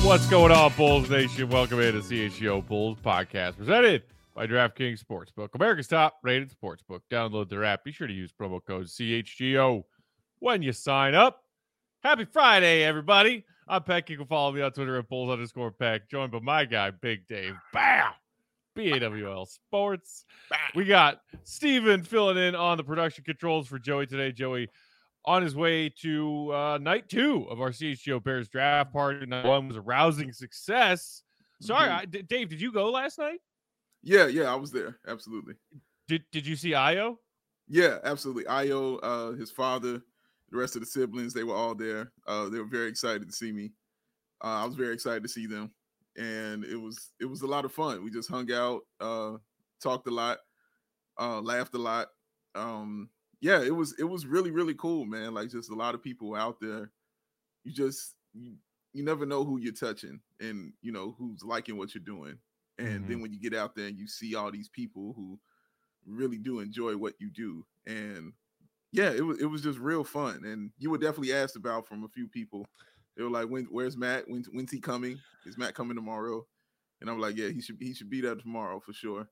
What's going on, Bulls Nation? Welcome into CHGO Bulls Podcast, presented by DraftKings Sportsbook, America's top-rated sportsbook. Download their app. Be sure to use promo code CHGO when you sign up. Happy Friday, everybody. I'm Peck. You can follow me on Twitter at Bulls_Peck. Joined by my guy, Big Dave. Bow! BAWL Sports. We got Steven filling in on the production controls for Joey today. Joey on his way to night 2 of our CHGO Bears draft party. Night 1 was a rousing success. Sorry, Dave, did you go last night? Yeah, I was there. Absolutely. Did you see Io? Yeah, absolutely. Io, his father, the rest of the siblings, they were all there. They were very excited to see me. I was very excited to see them, and it was a lot of fun. We just hung out, talked a lot, laughed a lot. Yeah, it was really, really cool, man. Like, just a lot of people out there. You never know who you're touching and, you know, who's liking what you're doing. And then when you get out there and you see all these people who really do enjoy what you do. And yeah, it was just real fun. And you were definitely asked about from a few people. They were like, where's Matt? When's he coming? Is Matt coming tomorrow? And I'm like, yeah, he should be there tomorrow for sure.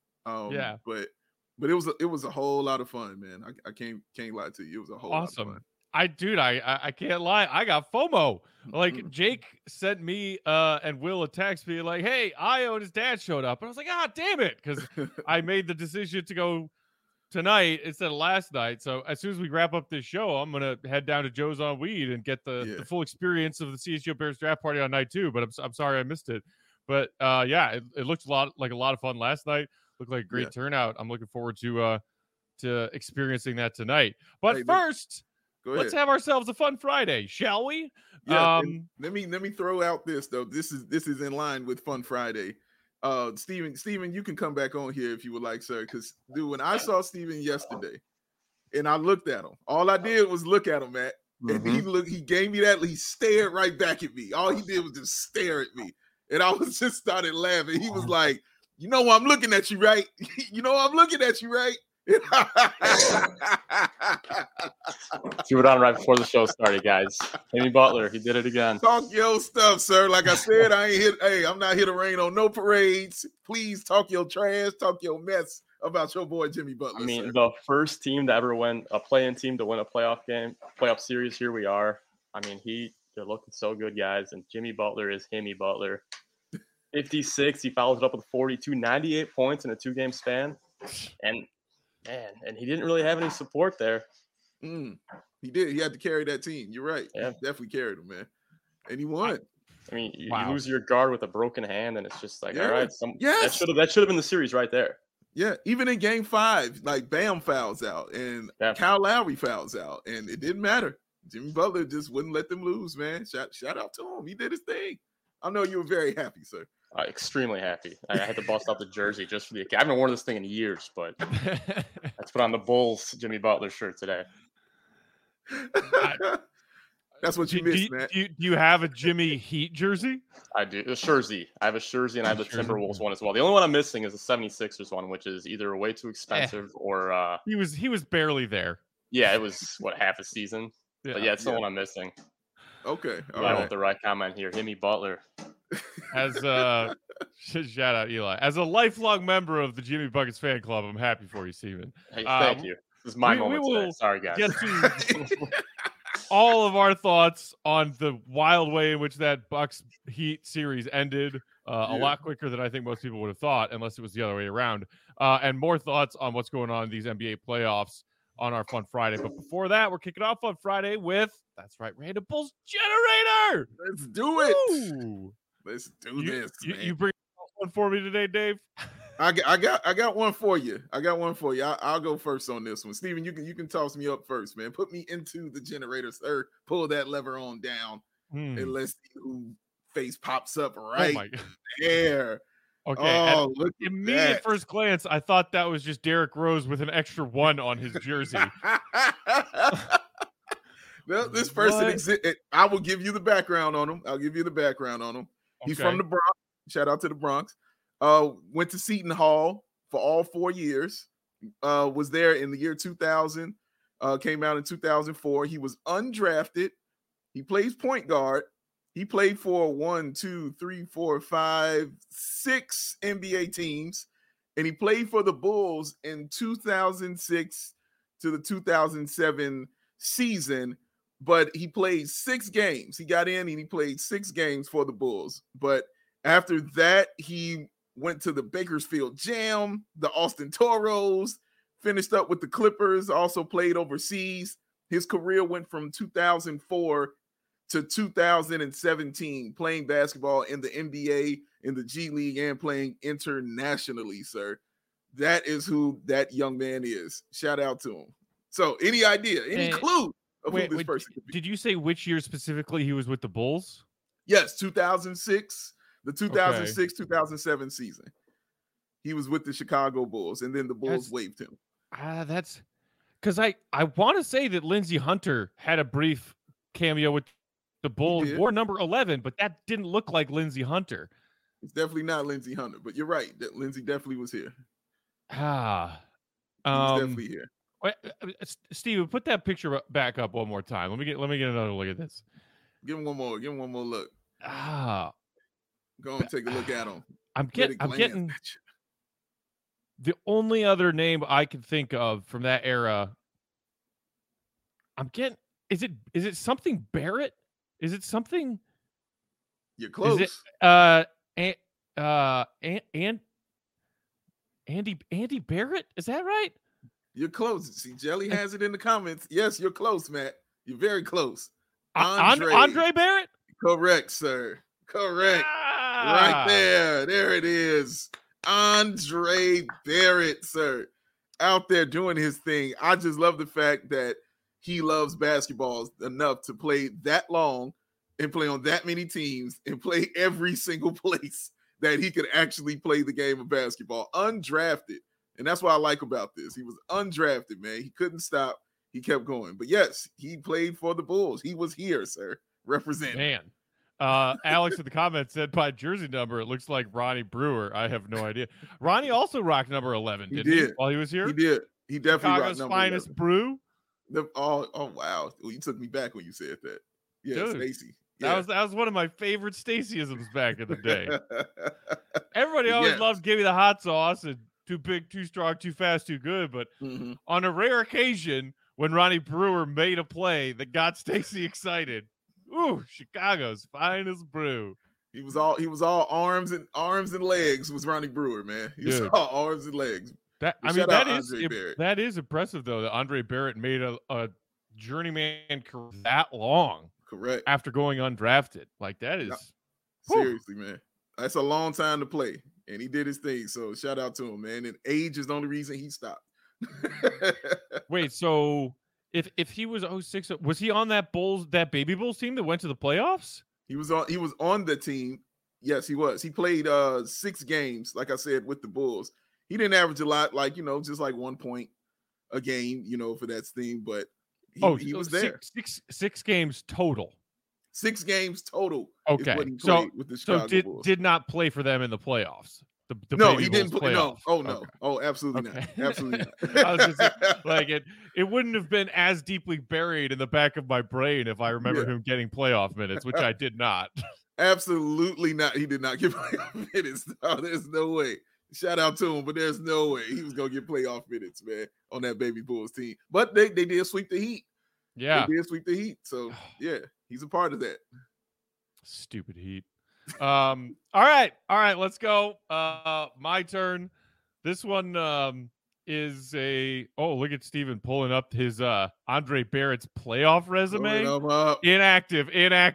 But it was a whole lot of fun, man. I can't lie to you. It was a whole lot of fun. I can't lie. I got FOMO. Like, Jake sent me and Will a text being like, hey, Io and his dad showed up. And I was like, damn it. Because I made the decision to go tonight instead of last night. So as soon as we wrap up this show, I'm going to head down to Joe's on Weed and get the full experience of the CHGO Bears draft party on night 2. But I'm sorry I missed it. But it looked like a lot of fun last night. Looked like a great turnout. I'm looking forward to experiencing that tonight. But first, let's have ourselves a fun Friday, shall we? Yeah. Let me throw out this though. This is in line with Fun Friday. Steven, you can come back on here if you would like, sir. Because dude, when I saw Steven yesterday, and I looked at him, all I did was look at him, Matt, and he gave me that. He stared right back at me. All he did was just stare at me, and I was just started laughing. He was like, "You know I'm looking at you, right? You know I'm looking at you, right?" See what on right before the show started, guys. Jimmy Butler, he did it again. Talk your stuff, sir. Like I said, I'm not here to rain on no parades. Please talk your trash, talk your mess about your boy Jimmy Butler. I mean, sir. The first team to ever win a play-in team to win a playoff series. Here we are. I mean, they're looking so good, guys. And Jimmy Butler is Jimmy Butler. 56. He follows it up with 42, 98 points in a 2-game span, and he didn't really have any support there. He did. He had to carry that team. You're right. Yeah. He definitely carried him, man. And he won. I mean, you lose your guard with a broken hand, and it's just like, all right, that should have been the series right there. Yeah, even in Game 5, like Bam fouls out, and Kyle Lowry fouls out, and it didn't matter. Jimmy Butler just wouldn't let them lose, man. Shout out to him. He did his thing. I know you were very happy, sir. Extremely happy. I had to bust out the jersey just for I haven't worn this thing in years, but let's put on the Bulls Jimmy Butler shirt today. That's what you missed, man. Do you have a Jimmy Heat jersey? I do. A jersey. I have a jersey, and I have the Timberwolves one as well. The only one I'm missing is the 76ers one, which is either way too expensive or he was barely there. Yeah, it was half a season. Yeah. But it's the one I'm missing. Okay. All right. With the right comment here. Jimmy Butler. As shout out Eli. As a lifelong member of the Jimmy Buckets fan club, I'm happy for you, Steven. Hey, thank you. This is my moment today. Sorry, guys. Get to all of our thoughts on the wild way in which that Bucks Heat series ended. A lot quicker than I think most people would have thought, unless it was the other way around. And more thoughts on what's going on in these NBA playoffs on our Fun Friday. But before that, we're kicking off Fun Friday with, that's right, Random Bulls Generator. Let's do it. Ooh. Let's do this. You bring one for me today, Dave? I got one for you. I'll go first on this one. Steven, you can toss me up first, man. Put me into the generator, sir. Pull that lever on down, and let's see who face pops up right there. Okay. Oh, look at immediate that. First glance, I thought that was just Derrick Rose with an extra 1 on his jersey. Well, this person I will give you the background on him. He's from the Bronx. Shout out to the Bronx. Went to Seton Hall for all 4 years. Was there in the year 2000. Came out in 2004. He was undrafted. He plays point guard. He played for 1, 2, 3, 4, 5, 6 NBA teams, and he played for the Bulls in 2006 to the 2007 season. But he played 6 games. He got in and he played 6 games for the Bulls. But after that, he went to the Bakersfield Jam, the Austin Toros, finished up with the Clippers, also played overseas. His career went from 2004 to 2017, playing basketball in the NBA, in the G League, and playing internationally, sir. That is who that young man is. Shout out to him. So any idea, any clue of who this person could be? Did you say which year specifically he was with the Bulls? Yes, 2006, the 2006-2007 season. He was with the Chicago Bulls, and then the Bulls waived him. That's because I want to say that Lindsey Hunter had a brief cameo with the Bulls, wore number 11, but that didn't look like Lindsey Hunter. It's definitely not Lindsey Hunter, but you're right. That Lindsey definitely was here. He's definitely here. Steven, put that picture back up one more time. Let me get another look at this. Give him one more. Give him one more look. Go and take a look at him. I'm getting the only other name I can think of from that era. Is it something Barrett? Is it something? You're close. Is it Andy Barrett? Is that right? You're close. See, Jelly has it in the comments. Yes, you're close, Matt. You're very close. Andre Barrett? Correct, sir. Correct. Right there. There it is. Andre Barrett, sir. Out there doing his thing. I just love the fact that he loves basketball enough to play that long and play on that many teams and play every single place that he could actually play the game of basketball. Undrafted. And that's what I like about this. He was undrafted, man. He couldn't stop. He kept going. But yes, he played for the Bulls. He was here, sir. Representing. Man. Alex in the comments said by jersey number, it looks like Ronnie Brewer. I have no idea. Ronnie also rocked number 11, didn't he? While he was here? He did. He definitely rocked number 11. Finest brew. Oh, wow. Well, you took me back when you said that. Yeah, Stacy. Yeah. That was one of my favorite Stacyisms back in the day. Everybody always loved give me the hot sauce and too big, too strong, too fast, too good. But on a rare occasion, when Ronnie Brewer made a play that got Stacy excited, ooh, Chicago's finest brew. He was all arms and legs was Ronnie Brewer, man. He was all arms and legs. That is impressive though that Andre Barrett made a journeyman career that long. Correct. After going undrafted. Like that is seriously, man. That's a long time to play. And he did his thing. So shout out to him, man. And age is the only reason he stopped. Wait, so if he was 06, was he on that Baby Bulls team that went to the playoffs? He was on the team. Yes, he was. He played 6 games, like I said, with the Bulls. He didn't average a lot, like, just like 1 point a game, for that thing, but he was there. Six games total. 6 games total. Okay. With the Chicago Bulls. Did not play for them in the playoffs. No, he didn't play. No. Oh no. Okay. Oh, absolutely not. Absolutely not. I was just like it wouldn't have been as deeply buried in the back of my brain if I remember him getting playoff minutes, which I did not. Absolutely not. He did not get playoff minutes. No, there's no way. Shout out to him, but there's no way he was gonna get playoff minutes, man, on that Baby Bulls team. But they did sweep the Heat. Yeah, they did sweep the Heat. So yeah, he's a part of that. Stupid Heat. All right, let's go. My turn. This one is look at Steven pulling up his Andre Barrett's playoff resume. Inactive.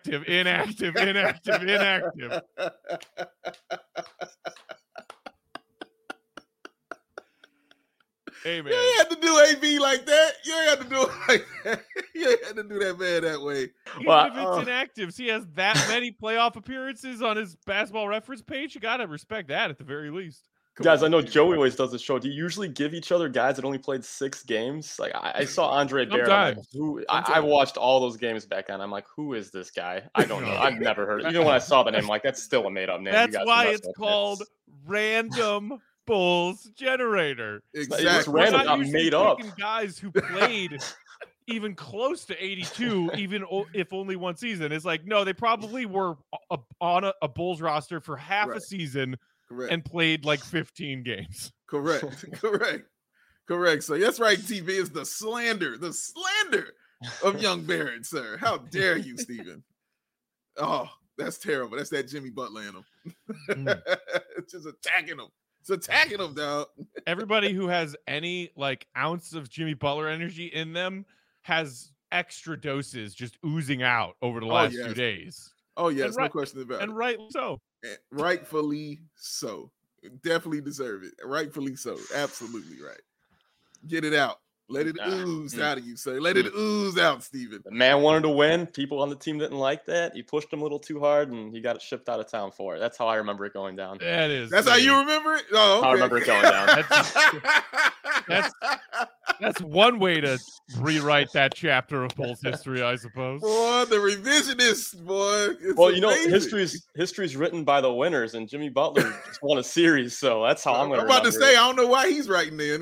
Hey, man. You ain't had to do AB like that. You ain't had to do it like that. You ain't had to do that man that way. Even if it's inactive, he has that many playoff appearances on his basketball reference page. You got to respect that at the very least. Guys, I know Joey always does this show. Do you usually give each other guys that only played 6 games? Like I saw Andre Barrett. I watched all those games back then. I'm like, who is this guy? I don't know. I've never heard it. Even when I saw the name, I'm like, that's still a made-up name. That's why it's called Random Bulls Generator. Exactly. Random, not made up. Guys who played even close to 82, even if only one season. It's like, no, they probably were on a Bulls roster for half a season and played like 15 games. Correct. So that's right, TV is the slander of young Barrett, sir. How dare you, Stephen? Oh, that's terrible. That's that Jimmy Butler in him. It's just attacking him. It's attacking him, dog. Everybody who has any like ounce of Jimmy Butler energy in them has extra doses just oozing out over the last few days. Oh, yes, no question about it. And rightfully so. Rightfully so. Definitely deserve it. Rightfully so. Absolutely right. Get it out. Let it ooze out of you, sir. Let it ooze out, Stephen. The man wanted to win. People on the team didn't like that. He pushed him a little too hard, and he got shipped out of town for it. That's how I remember it going down. That is. That's how you remember it? Oh, okay. I remember it going down. That's one way to rewrite that chapter of Bulls history, I suppose. Boy, the revisionist, boy. It's well, amazing. History's written by the winners, and Jimmy Butler just won a series, so that's how I'm going to remember. I'm about to say, I don't know why he's writing in.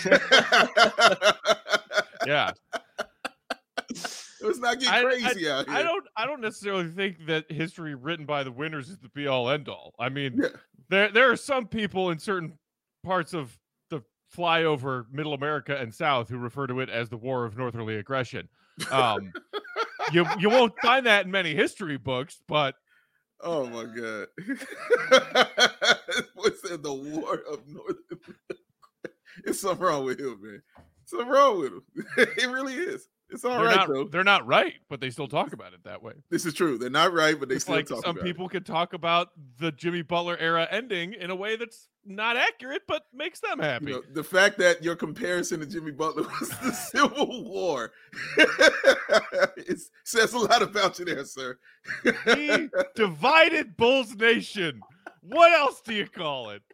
Yeah. Let's not get crazy out here. I don't necessarily think that history written by the winners is the be all end all. I mean, there are some people in certain parts of the flyover Middle America and South who refer to it as the War of Northerly Aggression. You won't find that in many history books, but oh my God. What's that? The War of Northern? It's something wrong with him, man. Something wrong with him. It really is. It's all right, though. They're not right, but they still talk about it that way. This is true. They're not right, but they still talk about it. Some people can talk about the Jimmy Butler era ending in a way that's not accurate, but makes them happy. The fact that your comparison to Jimmy Butler was the Civil War it says a lot about you there, sir. He divided Bulls Nation. What else do you call it?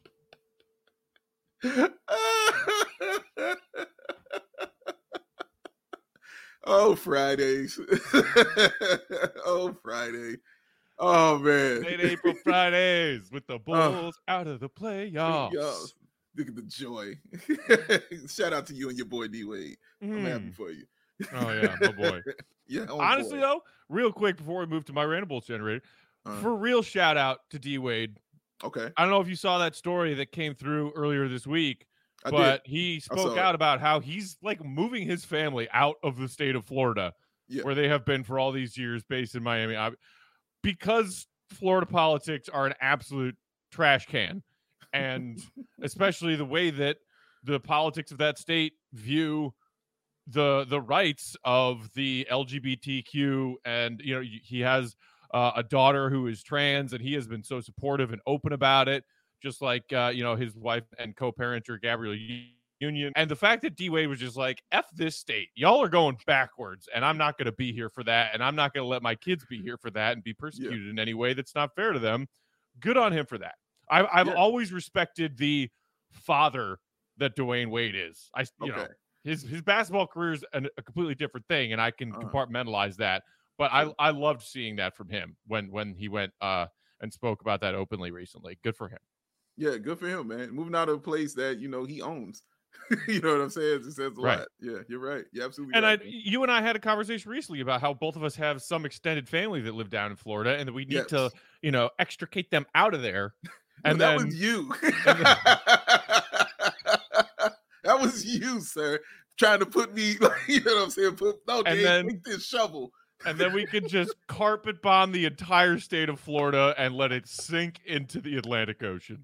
Oh, Fridays. Oh, Friday. Oh, man. Late April Fridays with the Bulls out of the playoffs. Look at the joy. Shout out to you and your boy D-Wade. I'm happy for you. Oh, yeah, my boy. Yeah. Honestly, though, real quick before we move to my random Bulls generator, for real shout out to D-Wade. Okay. I don't know if you saw that story that came through earlier this week, but he spoke out about how he's like moving his family out of the state of Florida, where they have been for all these years, based in Miami, because Florida politics are an absolute trash can, and especially the way that the politics of that state view the rights of the LGBTQ, and he has a daughter who is trans, and he has been so supportive and open about it. Just like, his wife and co-parenter, Gabrielle Union. And the fact that D-Wade was just like, F this state. Y'all are going backwards, and I'm not going to be here for that, and I'm not going to let my kids be here for that and be persecuted in any way that's not fair to them. Good on him for that. I've always respected the father that Dwayne Wade is. His basketball career is a completely different thing, and I can compartmentalize that. But I loved seeing that from him when he went and spoke about that openly recently. Good for him. Yeah, good for him, man. Moving out of a place that, he owns. You know what I'm saying? It says a lot. Yeah, you're right. You're absolutely right. And you and I had a conversation recently about how both of us have some extended family that live down in Florida, and that we need to, extricate them out of there. And that was you. That was you, sir. Trying to put me, you know what I'm saying? Take this shovel. And then we could just carpet bomb the entire state of Florida and let it sink into the Atlantic Ocean.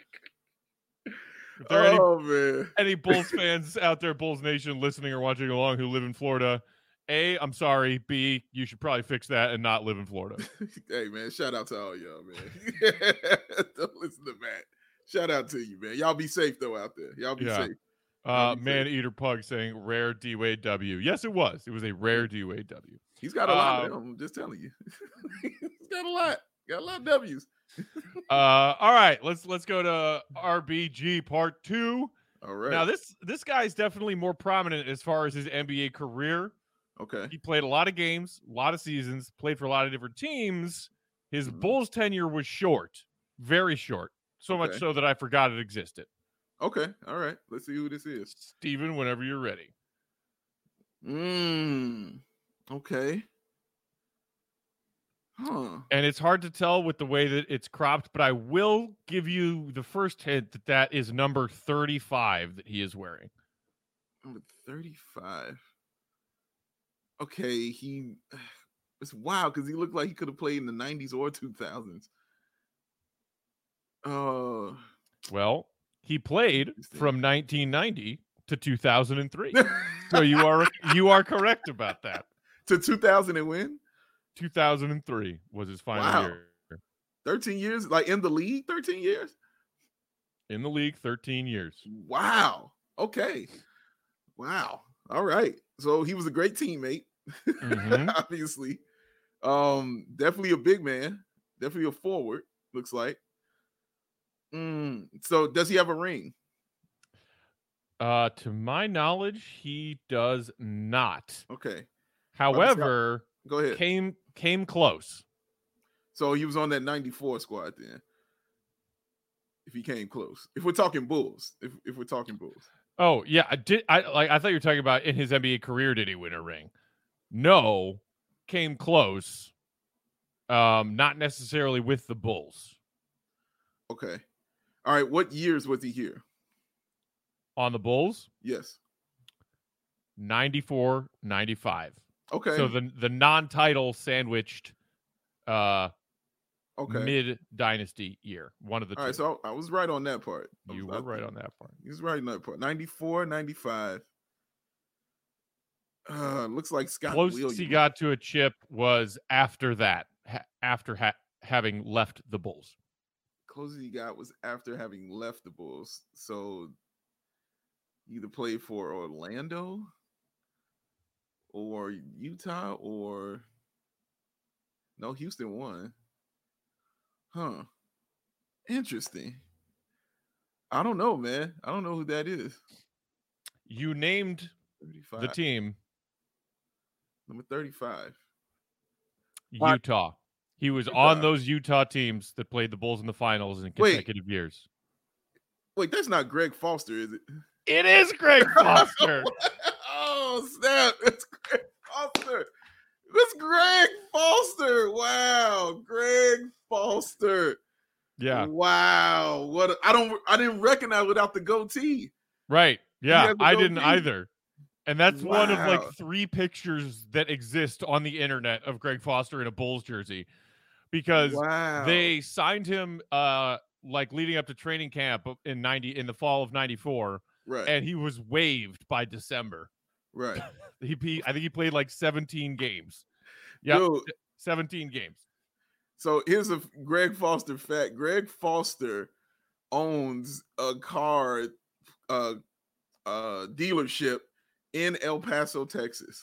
If there are any Bulls fans out there, Bulls Nation, listening or watching along who live in Florida, A, I'm sorry. B, you should probably fix that and not live in Florida. Hey, man, shout out to all y'all, man. Don't listen to Matt. Shout out to you, man. Y'all be safe, though, out there. Y'all be safe. Man Eater Pug saying rare D-Wade W. Yes, it was. It was a rare D-Wade W. He's got a lot of them. I'm just telling you. He's got a lot. Got a lot of W's. All right. Let's go to RBG part 2. All right. Now this guy is definitely more prominent as far as his NBA career. Okay. He played a lot of games, a lot of seasons, played for a lot of different teams. His Bulls tenure was short, very short. So much so that I forgot it existed. Okay. All right. Let's see who this is. Steven, whenever you're ready. Okay. Huh. And it's hard to tell with the way that it's cropped, but I will give you the first hint that that is number 35 that he is wearing. Number 35. Okay, it's wild because he looked like he could have played in the 90s or 2000s. Well, he played from 1990 to 2003. So you are correct about that. To 2000 and when? 2003 was his final year. 13 years, like in the league, 13 years? In the league, 13 years. Wow. Okay. Wow. All right. So he was a great teammate, obviously. Definitely a big man, definitely a forward, looks like. So does he have a ring? To my knowledge, he does not. Okay. However, go ahead. Came close. So he was on that 94 squad then. If he came close. If we're talking Bulls. If we're talking Bulls. Oh, yeah. I thought you were talking about in his NBA career, did he win a ring? No. Came close. Not necessarily with the Bulls. Okay. All right. What years was he here? On the Bulls? Yes. 94, 95. Okay. So the non-title sandwiched mid-dynasty year. One of the two. All right, so I was right on that part. You were right on that part. He was right on that part. 94, 95. Looks like Scott Closest he got to a chip was after that, after having left the Bulls. Closest he got was after having left the Bulls. So either played for Orlando or Utah or no, Houston won. Huh. Interesting. I don't know, man. I don't know who that is. You named 35. The team. Number 35. Utah. He was on those Utah teams that played the Bulls in the finals in consecutive years. Wait, that's not Greg Foster, is it? It is Greg Foster. Oh, snap. It's Greg Foster. That's Greg Foster. Wow. Greg Foster. Yeah. Wow. I didn't recognize without the goatee. Right. Yeah, I didn't either. And that's one of like 3 pictures that exist on the internet of Greg Foster in a Bulls jersey. Because they signed him like leading up to training camp in the fall of 94. Right. And he was waived by December. Right. I think he played like 17 games. Yeah, 17 games. So here's a Greg Foster fact. Greg Foster owns a car dealership in El Paso, Texas.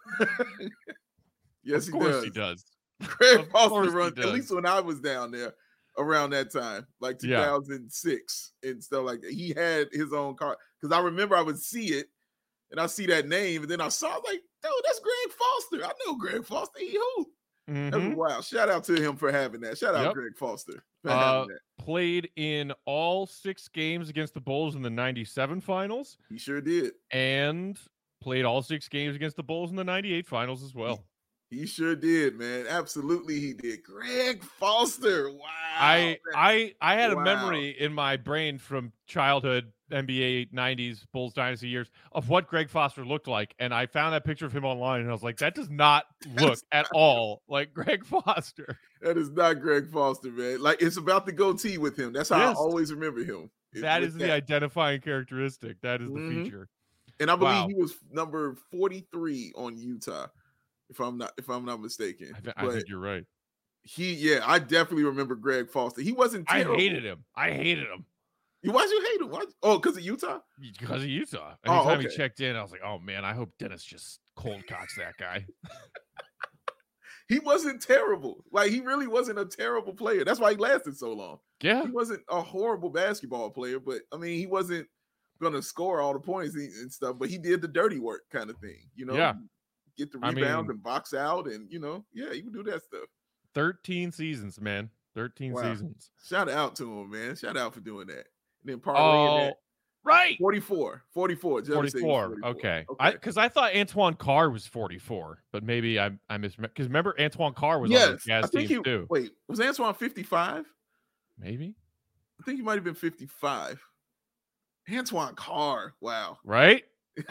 Yes, he does. Of course he does. Greg Foster runs, at least when I was down there around that time, like 2006 and stuff like that. He had his own car. Because I remember I would see it and I see that name, and then I saw like, dude, that's Greg Foster. I know Greg Foster. He hoop. That was wild. Shout out to him for having that. Shout out Greg Foster for having that. Played in all 6 games against the Bulls in the 97 finals. He sure did. And played all 6 games against the Bulls in the 98 finals as well. He sure did, man. Absolutely he did. Greg Foster. Wow. I had a memory in my brain from childhood NBA 90s Bulls dynasty years of what Greg Foster looked like, and I found that picture of him online and I was like, that does not look at all like Greg Foster. That is not Greg Foster, man. Like, it's about the goatee with him. That's how I always remember him. That is the identifying characteristic. That is the feature. And I believe he was number 43 on Utah, if I'm not mistaken. I think you're right. I definitely remember Greg Foster. He wasn't terrible. I hated him. Why'd you hate him? Oh, because of Utah? Because of Utah. Anytime he checked in, I was like, oh man, I hope Dennis just cold cocks that guy. He wasn't terrible. Like, he really wasn't a terrible player. That's why he lasted so long. Yeah. He wasn't a horrible basketball player, but I mean, he wasn't going to score all the points and stuff, but he did the dirty work kind of thing, you know? Yeah. Get the rebounds and box out and, he would do that stuff. 13 seasons, man. 13 seasons. Shout out to him, man. Shout out for doing that. And then parlaying that. Right. 44. 44. Judge said he was 44. Okay. Okay. Because I thought Antoine Carr was 44, but maybe I misremembered. Because remember, Antoine Carr was on those Yes. Jazz teams too. Wait, was Antoine 55? Maybe. I think he might have been 55. Antoine Carr. Wow. Right?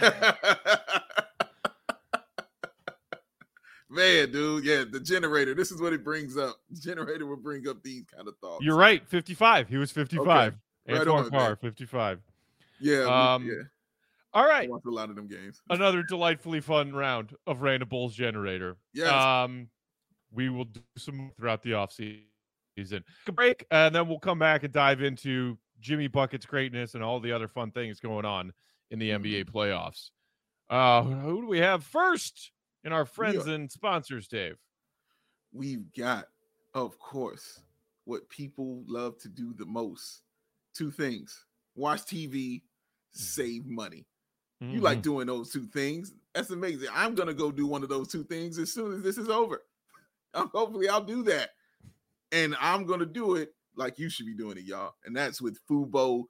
Man, dude. Yeah, the generator. This is what it brings up. The generator will bring up these kind of thoughts. You're right. 55. He was 55. Okay. Antoine Right on, Carr, man. 55. Yeah. Yeah. I All right. watched a lot of them games. Another delightfully fun round of Random Bulls Generator. Yes. We will do some throughout the offseason. A break, and then we'll come back and dive into Jimmy Bucket's greatness and all the other fun things going on in the NBA playoffs. Who do we have first in our friends and sponsors, Dave? We've got, of course, what people love to do the most. Two things. Watch TV, save money. Mm-hmm. You like doing those two things. That's amazing. I'm going to go do one of those two things as soon as this is over. Hopefully I'll do that. And I'm going to do it like you should be doing it, y'all. And that's with Fubo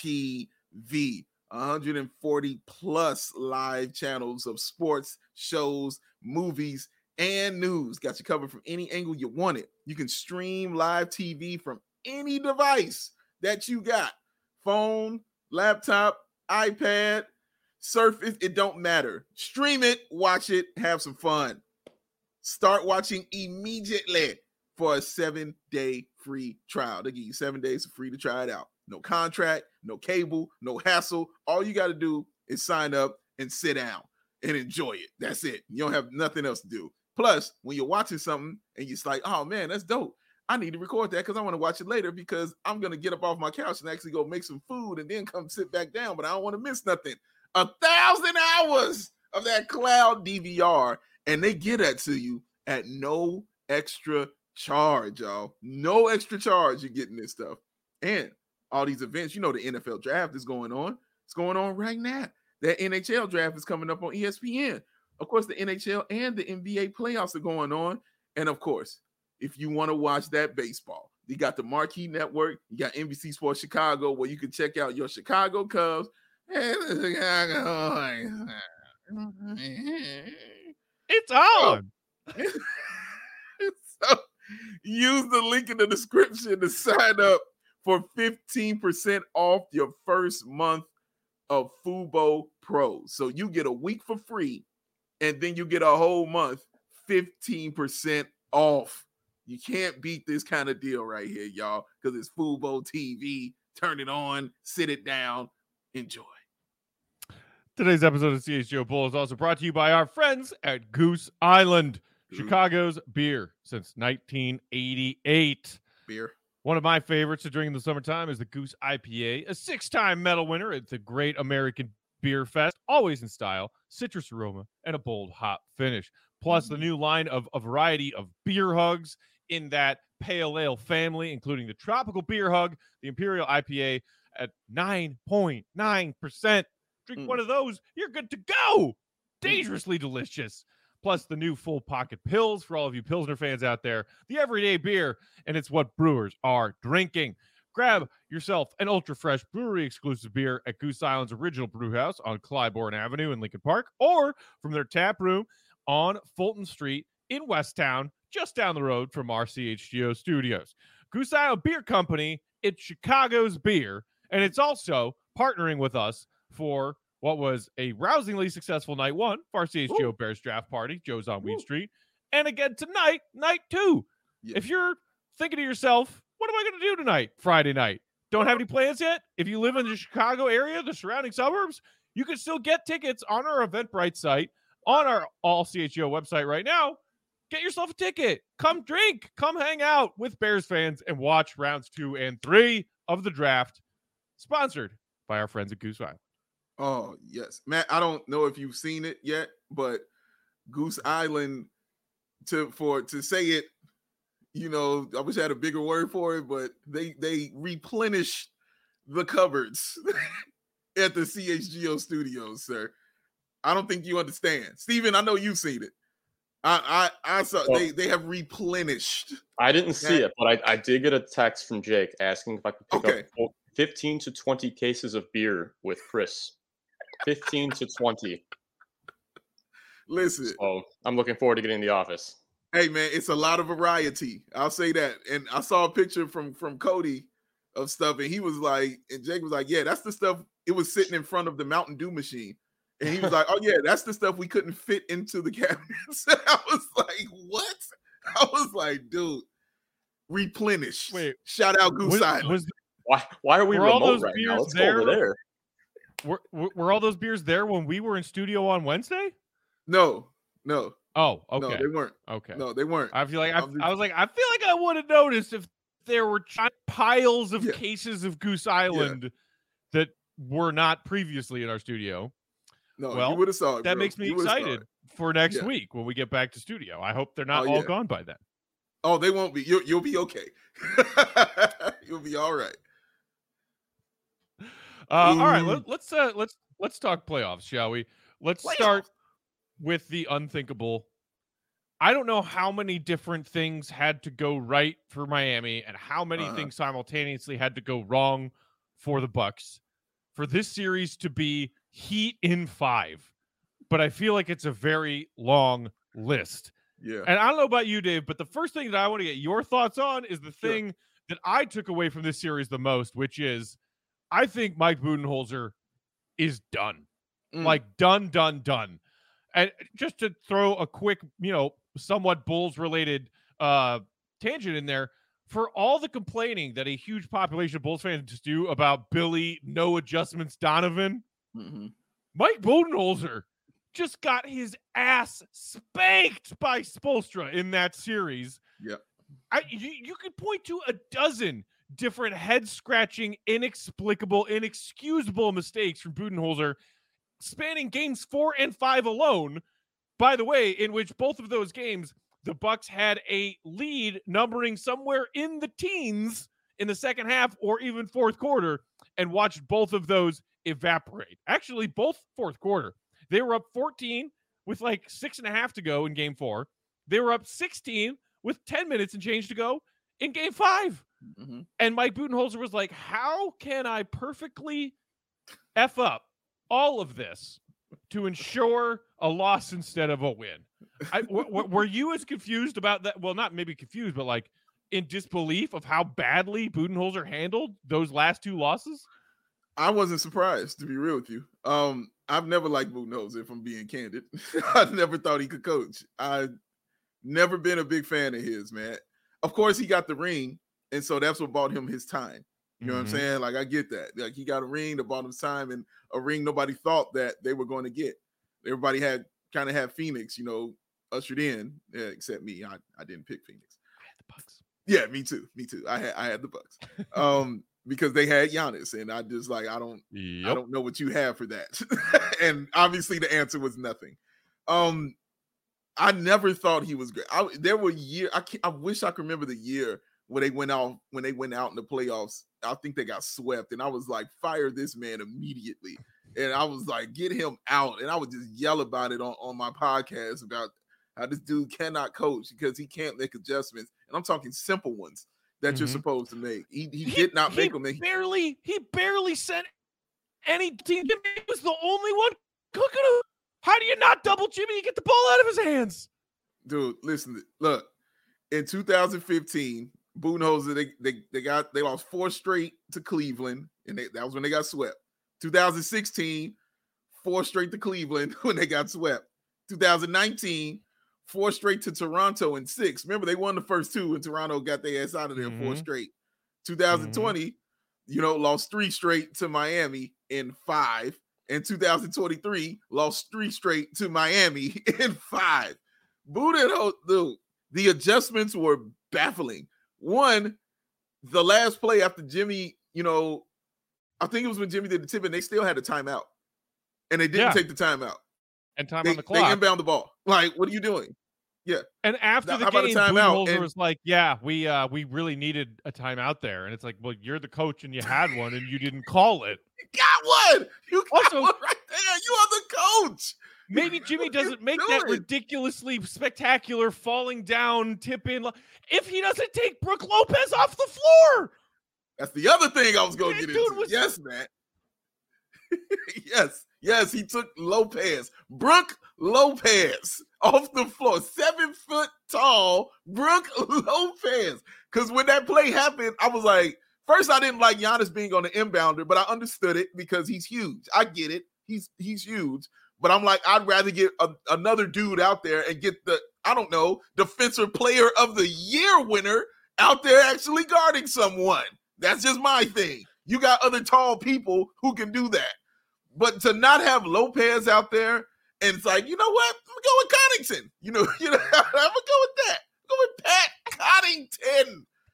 TV. 140 plus live channels of sports, shows, movies, and news. Got you covered from any angle you want it. You can stream live TV from any device that you got. Phone, laptop, iPad, Surface, it don't matter. Stream it, watch it, have some fun. Start watching immediately for a 7-day free trial. They give you 7 days free to try it out. No contract, no cable, no hassle. All you got to do is sign up and sit down and enjoy it. That's it. You don't have nothing else to do. Plus, when you're watching something and you're like, oh man, that's dope. I need to record that because I want to watch it later because I'm going to get up off my couch and actually go make some food and then come sit back down, but I don't want to miss nothing. 1,000 hours of that cloud DVR, and they get that to you at no extra charge, y'all. No extra charge. You're getting this stuff. And all these events, you know, the NFL draft is going on. It's going on right now. That NHL draft is coming up on ESPN. Of course, the NHL and the NBA playoffs are going on. And of course, if you want to watch that baseball, you got the Marquee Network. You got NBC Sports Chicago, where you can check out your Chicago Cubs and the Chicago. It's on. So use the link in the description to sign up for 15% off your first month of Fubo Pro. So you get a week for free, and then you get a whole month 15% off. You can't beat this kind of deal right here, y'all, because it's Fubo TV. Turn it on, sit it down, enjoy. Today's episode of CHGO Bull is also brought to you by our friends at Goose Island, Chicago's beer since 1988. Beer. One of my favorites to drink in the summertime is the Goose IPA, a 6-time medal winner. It's a great American beer fest, always in style, citrus aroma, and a bold hop finish. Plus, the new line of a variety of beer hugs in that pale ale family, including the tropical beer hug, the Imperial IPA at 9.9%. Drink one of those, you're good to go. Dangerously delicious. Plus the new full pocket pills for all of you Pilsner fans out there. The everyday beer, and it's what brewers are drinking. Grab yourself an ultra fresh brewery exclusive beer at Goose Island's original brew house on Clybourne Avenue in Lincoln Park, or from their tap room on Fulton Street in Westtown, just down the road from our CHGO studios. Goose Island Beer Company, it's Chicago's beer, and it's also partnering with us for what was a rousingly successful night one for our CHGO Bears draft party. Joe's on Weed Street. And again tonight, night two. Yeah. If you're thinking to yourself, what am I going to do tonight, Friday night? Don't have any plans yet? If you live in the Chicago area, the surrounding suburbs, you can still get tickets on our Eventbrite site, on our All CHGO website right now. Get yourself a ticket. Come drink. Come hang out with Bears fans and watch rounds 2 and 3 of the draft, sponsored by our friends at Goose Island. Oh, yes. Matt, I don't know if you've seen it yet, but Goose Island, to say it, you know, I wish I had a bigger word for it, but they replenish the cupboards at the CHGO studios, sir. I don't think you understand. Steven, I know you've seen it. I saw they have replenished. I didn't see it, but I did get a text from Jake asking if I could pick up 15 to 20 cases of beer with Chris. 15 to 20. Listen. So I'm looking forward to getting in the office. Hey, man, it's a lot of variety. I'll say that. And I saw a picture from Cody of stuff, and he was like, and Jake was like, yeah, that's the stuff. It was sitting in front of the Mountain Dew machine. And he was like, oh, yeah, that's the stuff we couldn't fit into the cabinets. I was like, what? I was like, dude, replenish. Wait, shout out Goose Island. Why are we remote right now? Let's go over there. Were all those beers there when we were in studio on Wednesday? No. Oh, okay. No, they weren't. Okay. No, they weren't. I feel like I feel like I would have noticed if there were piles of cases of Goose Island that were not previously in our studio. No, well, you would have saw it. That makes me excited for next week when we get back to studio. I hope they're not all gone by then. Oh, they won't be. You'll be okay. You'll be all right. All right, let's talk playoffs, shall we? Let's start with the unthinkable. I don't know how many different things had to go right for Miami and how many things simultaneously had to go wrong for the Bucks for this series to be Heat in 5. But I feel like it's a very long list. Yeah. And I don't know about you, Dave, but the first thing that I want to get your thoughts on is the thing that I took away from this series the most, which is I think Mike Budenholzer is done. Like done. And just to throw a quick, somewhat Bulls-related tangent in there, for all the complaining that a huge population of Bulls fans do about Billy No Adjustments Donovan, Mike Budenholzer just got his ass spanked by Spoelstra in that series. Yeah, you could point to a dozen different head-scratching, inexplicable, inexcusable mistakes from Budenholzer spanning games 4 and 5 alone, by the way, in which both of those games, the Bucks had a lead numbering somewhere in the teens in the second half or even fourth quarter, and watched both of those evaporate. Actually, both fourth quarter. They were up 14 with like 6.5 to go in game 4. They were up 16 with 10 minutes and change to go in game 5. And Mike Budenholzer was like, how can I perfectly F up all of this to ensure a loss instead of a win? Were you as confused about that? Well, not maybe confused, but like in disbelief of how badly Budenholzer handled those last 2 losses? I wasn't surprised, to be real with you. I've never liked Budenholzer, if I'm being candid. I never thought he could coach. I've never been a big fan of his, man. Of course, he got the ring, and so that's what bought him his time. You know what I'm saying? Like, I get that. Like, he got a ring that bought him time, and a ring nobody thought that they were going to get. Everybody had Phoenix, ushered in, except me. I didn't pick Phoenix. I had the Bucks. Yeah, me too. I had the Bucks. Because they had Giannis, and I just like I don't know what you have for that. And obviously the answer was nothing. I never thought he was great. There were years. I wish I could remember the year when they went out in the playoffs. I think they got swept, and I was like, fire this man immediately. And I was like, get him out. And I would just yell about it on my podcast about how this dude cannot coach because he can't make adjustments. And I'm talking simple ones that you're supposed to make. He did not make them. He barely sent any team. Jimmy was the only one cooking him. How do you not double Jimmy and get the ball out of his hands? Dude, listen, look. In 2015, Budenholzer, they lost 4 straight to Cleveland, and that was when they got swept. 2016, 4 straight to Cleveland when they got swept. 2019, 4 straight to Toronto and 6. Remember, they won the first 2 and Toronto got their ass out of there 4 straight. 2020, lost 3 straight to Miami in 5. And 2023, lost 3 straight to Miami in 5. Budenholzer, dude, the adjustments were baffling. One, the last play after Jimmy, I think it was when Jimmy did the tip and they still had a timeout. And they didn't take the timeout. And time on the clock. They inbound the ball. Like, what are you doing? Yeah. And after the game, Budenholzer was like, yeah, we really needed a timeout there. And it's like, well, you're the coach and you had one and you didn't call it. You got one. You got one right there. You are the coach. Maybe Jimmy doesn't make that ridiculously spectacular falling down tip in. If he doesn't take Brook Lopez off the floor, That's the other thing I was going to get into. Yes, Matt. Yes, he took Lopez, Brooke Lopez, off the floor. 7 foot tall Brooke Lopez. Because when that play happened, I was like, first I didn't like Giannis being on the inbounder, but I understood it because he's huge. I get it. He's huge. But I'm like, I'd rather get another dude out there and get the, I don't know, Defensive Player of the Year winner out there actually guarding someone. That's just my thing. You got other tall people who can do that. But to not have Lopez out there, and it's like, you know what? I'm going to go with Connaughton. You know, I'm going to go with that. Go with Pat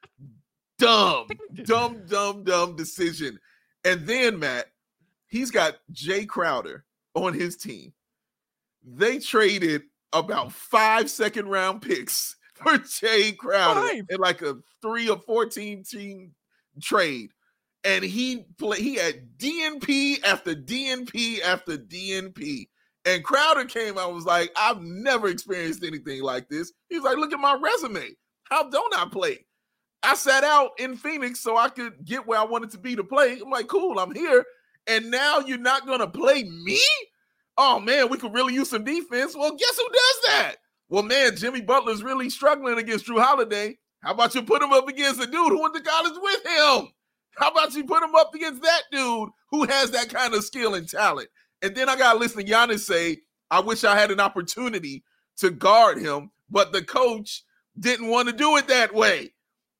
Connaughton. Dumb decision. And then, Matt, he's got Jay Crowder on his team. They traded about 5 second-round picks for Jay Crowder in like a 3 or 14 team trade. And he had DNP after DNP after DNP. And Crowder came out and was like, I've never experienced anything like this. He's like, look at my resume. How don't I play? I sat out in Phoenix so I could get where I wanted to be to play. I'm like, cool, I'm here. And now you're not going to play me? Oh, man, we could really use some defense. Well, guess who does that? Well, man, Jimmy Butler's really struggling against Drew Holiday. How about you put him up against a dude who went to college with him? How about you put him up against that dude who has that kind of skill and talent? And then I got to listen to Giannis say, I wish I had an opportunity to guard him, but the coach didn't want to do it that way.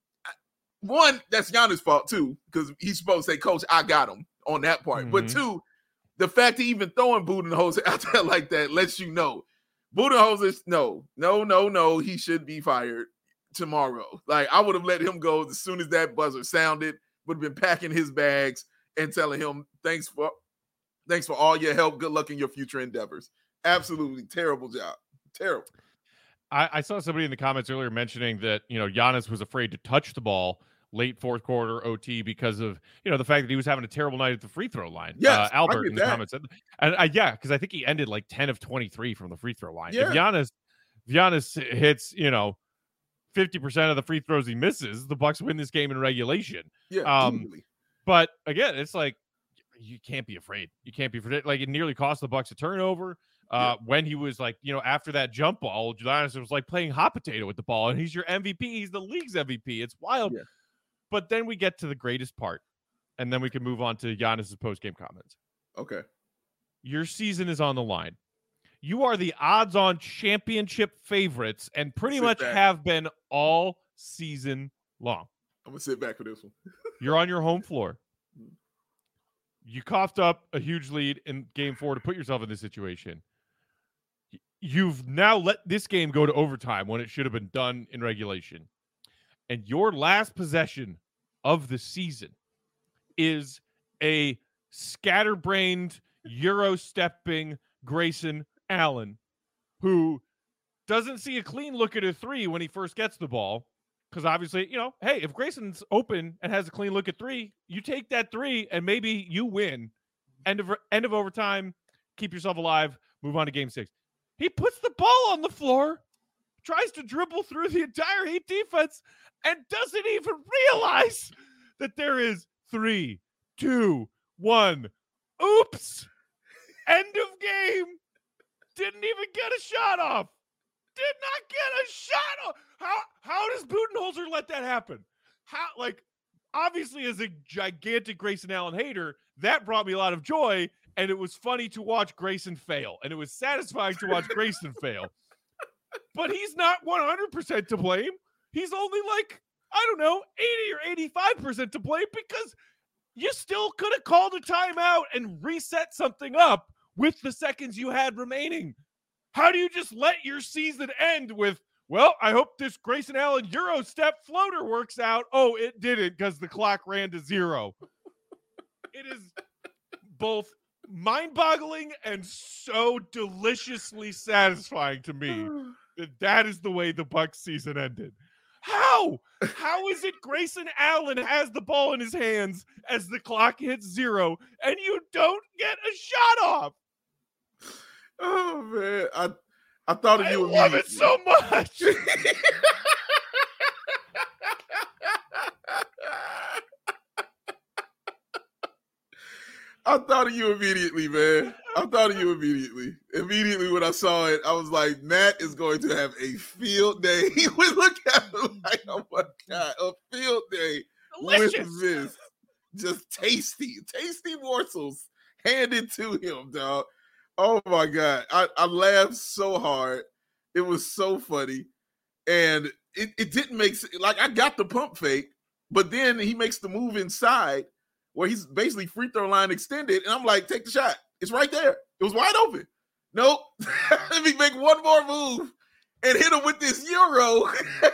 One, that's Giannis' fault too, because he's supposed to say, Coach, I got him on that part. Mm-hmm. But two, the fact he even throwing Budenholzer out there like that lets you know. Budenholzer, no, he should be fired tomorrow. Like, I would have let him go as soon as that buzzer sounded. Would have been packing his bags and telling him, thanks for all your help. Good luck in your future endeavors. Absolutely terrible job. Terrible. I saw somebody in the comments earlier mentioning that, Giannis was afraid to touch the ball late fourth quarter OT because of, the fact that he was having a terrible night at the free throw line. Yes, Albert in the comments said, and because I think he ended like 10 of 23 from the free throw line. Yeah. If Giannis hits, 50% of the free throws he misses, the Bucks win this game in regulation. Yeah, but again, it's like you can't be afraid. You can't be afraid. Like, it nearly cost the Bucks a turnover. When he was like, after that jump ball, Giannis was like playing hot potato with the ball, and he's your MVP. He's the league's MVP. It's wild. Yeah. But then we get to the greatest part, and then we can move on to Giannis's post-game comments. Okay. Your season is on the line. You are the odds-on championship favorites and pretty much have been all season long. I'm going to sit back for this one. You're on your home floor. You coughed up a huge lead in game 4 to put yourself in this situation. You've now let this game go to overtime when it should have been done in regulation. And your last possession of the season is a scatterbrained, Euro-stepping Grayson Allen, who doesn't see a clean look at a three when he first gets the ball. Because obviously, hey, if Grayson's open and has a clean look at three, you take that three and maybe you win. End of overtime, keep yourself alive, move on to game 6. He puts the ball on the floor, tries to dribble through the entire Heat defense, and doesn't even realize that there is 3, 2, 1. Oops. End of game. Didn't even get a shot off. Did not get a shot off. How does Budenholzer let that happen? Obviously, as a gigantic Grayson Allen hater, that brought me a lot of joy, and it was funny to watch Grayson fail, and it was satisfying to watch Grayson fail. But he's not 100% to blame. He's only 80 or 85% to blame, because you still could have called a timeout and reset something up with the seconds you had remaining. How do you just let your season end with, well, I hope this Grayson Allen Euro step floater works out? Oh, it didn't, because the clock ran to 0. It is both mind-boggling and so deliciously satisfying to me that is the way the Bucks season ended. How is it Grayson Allen has the ball in his hands as the clock hits 0 and you don't get a shot off? Oh man, I thought of you. I love it so much. I thought of you immediately, man. I thought of you immediately. Immediately when I saw it, I was like, Matt is going to have a field day. He would look at him like, oh my God, a field day Delicious. with this. Just tasty morsels handed to him, dog. Oh my God. I laughed so hard. It was so funny. And it didn't make sense. Like, I got the pump fake, but then he makes the move inside where he's basically free throw line extended. And I'm like, take the shot. It's right there. It was wide open. Nope. Let me make one more move and hit him with this Euro.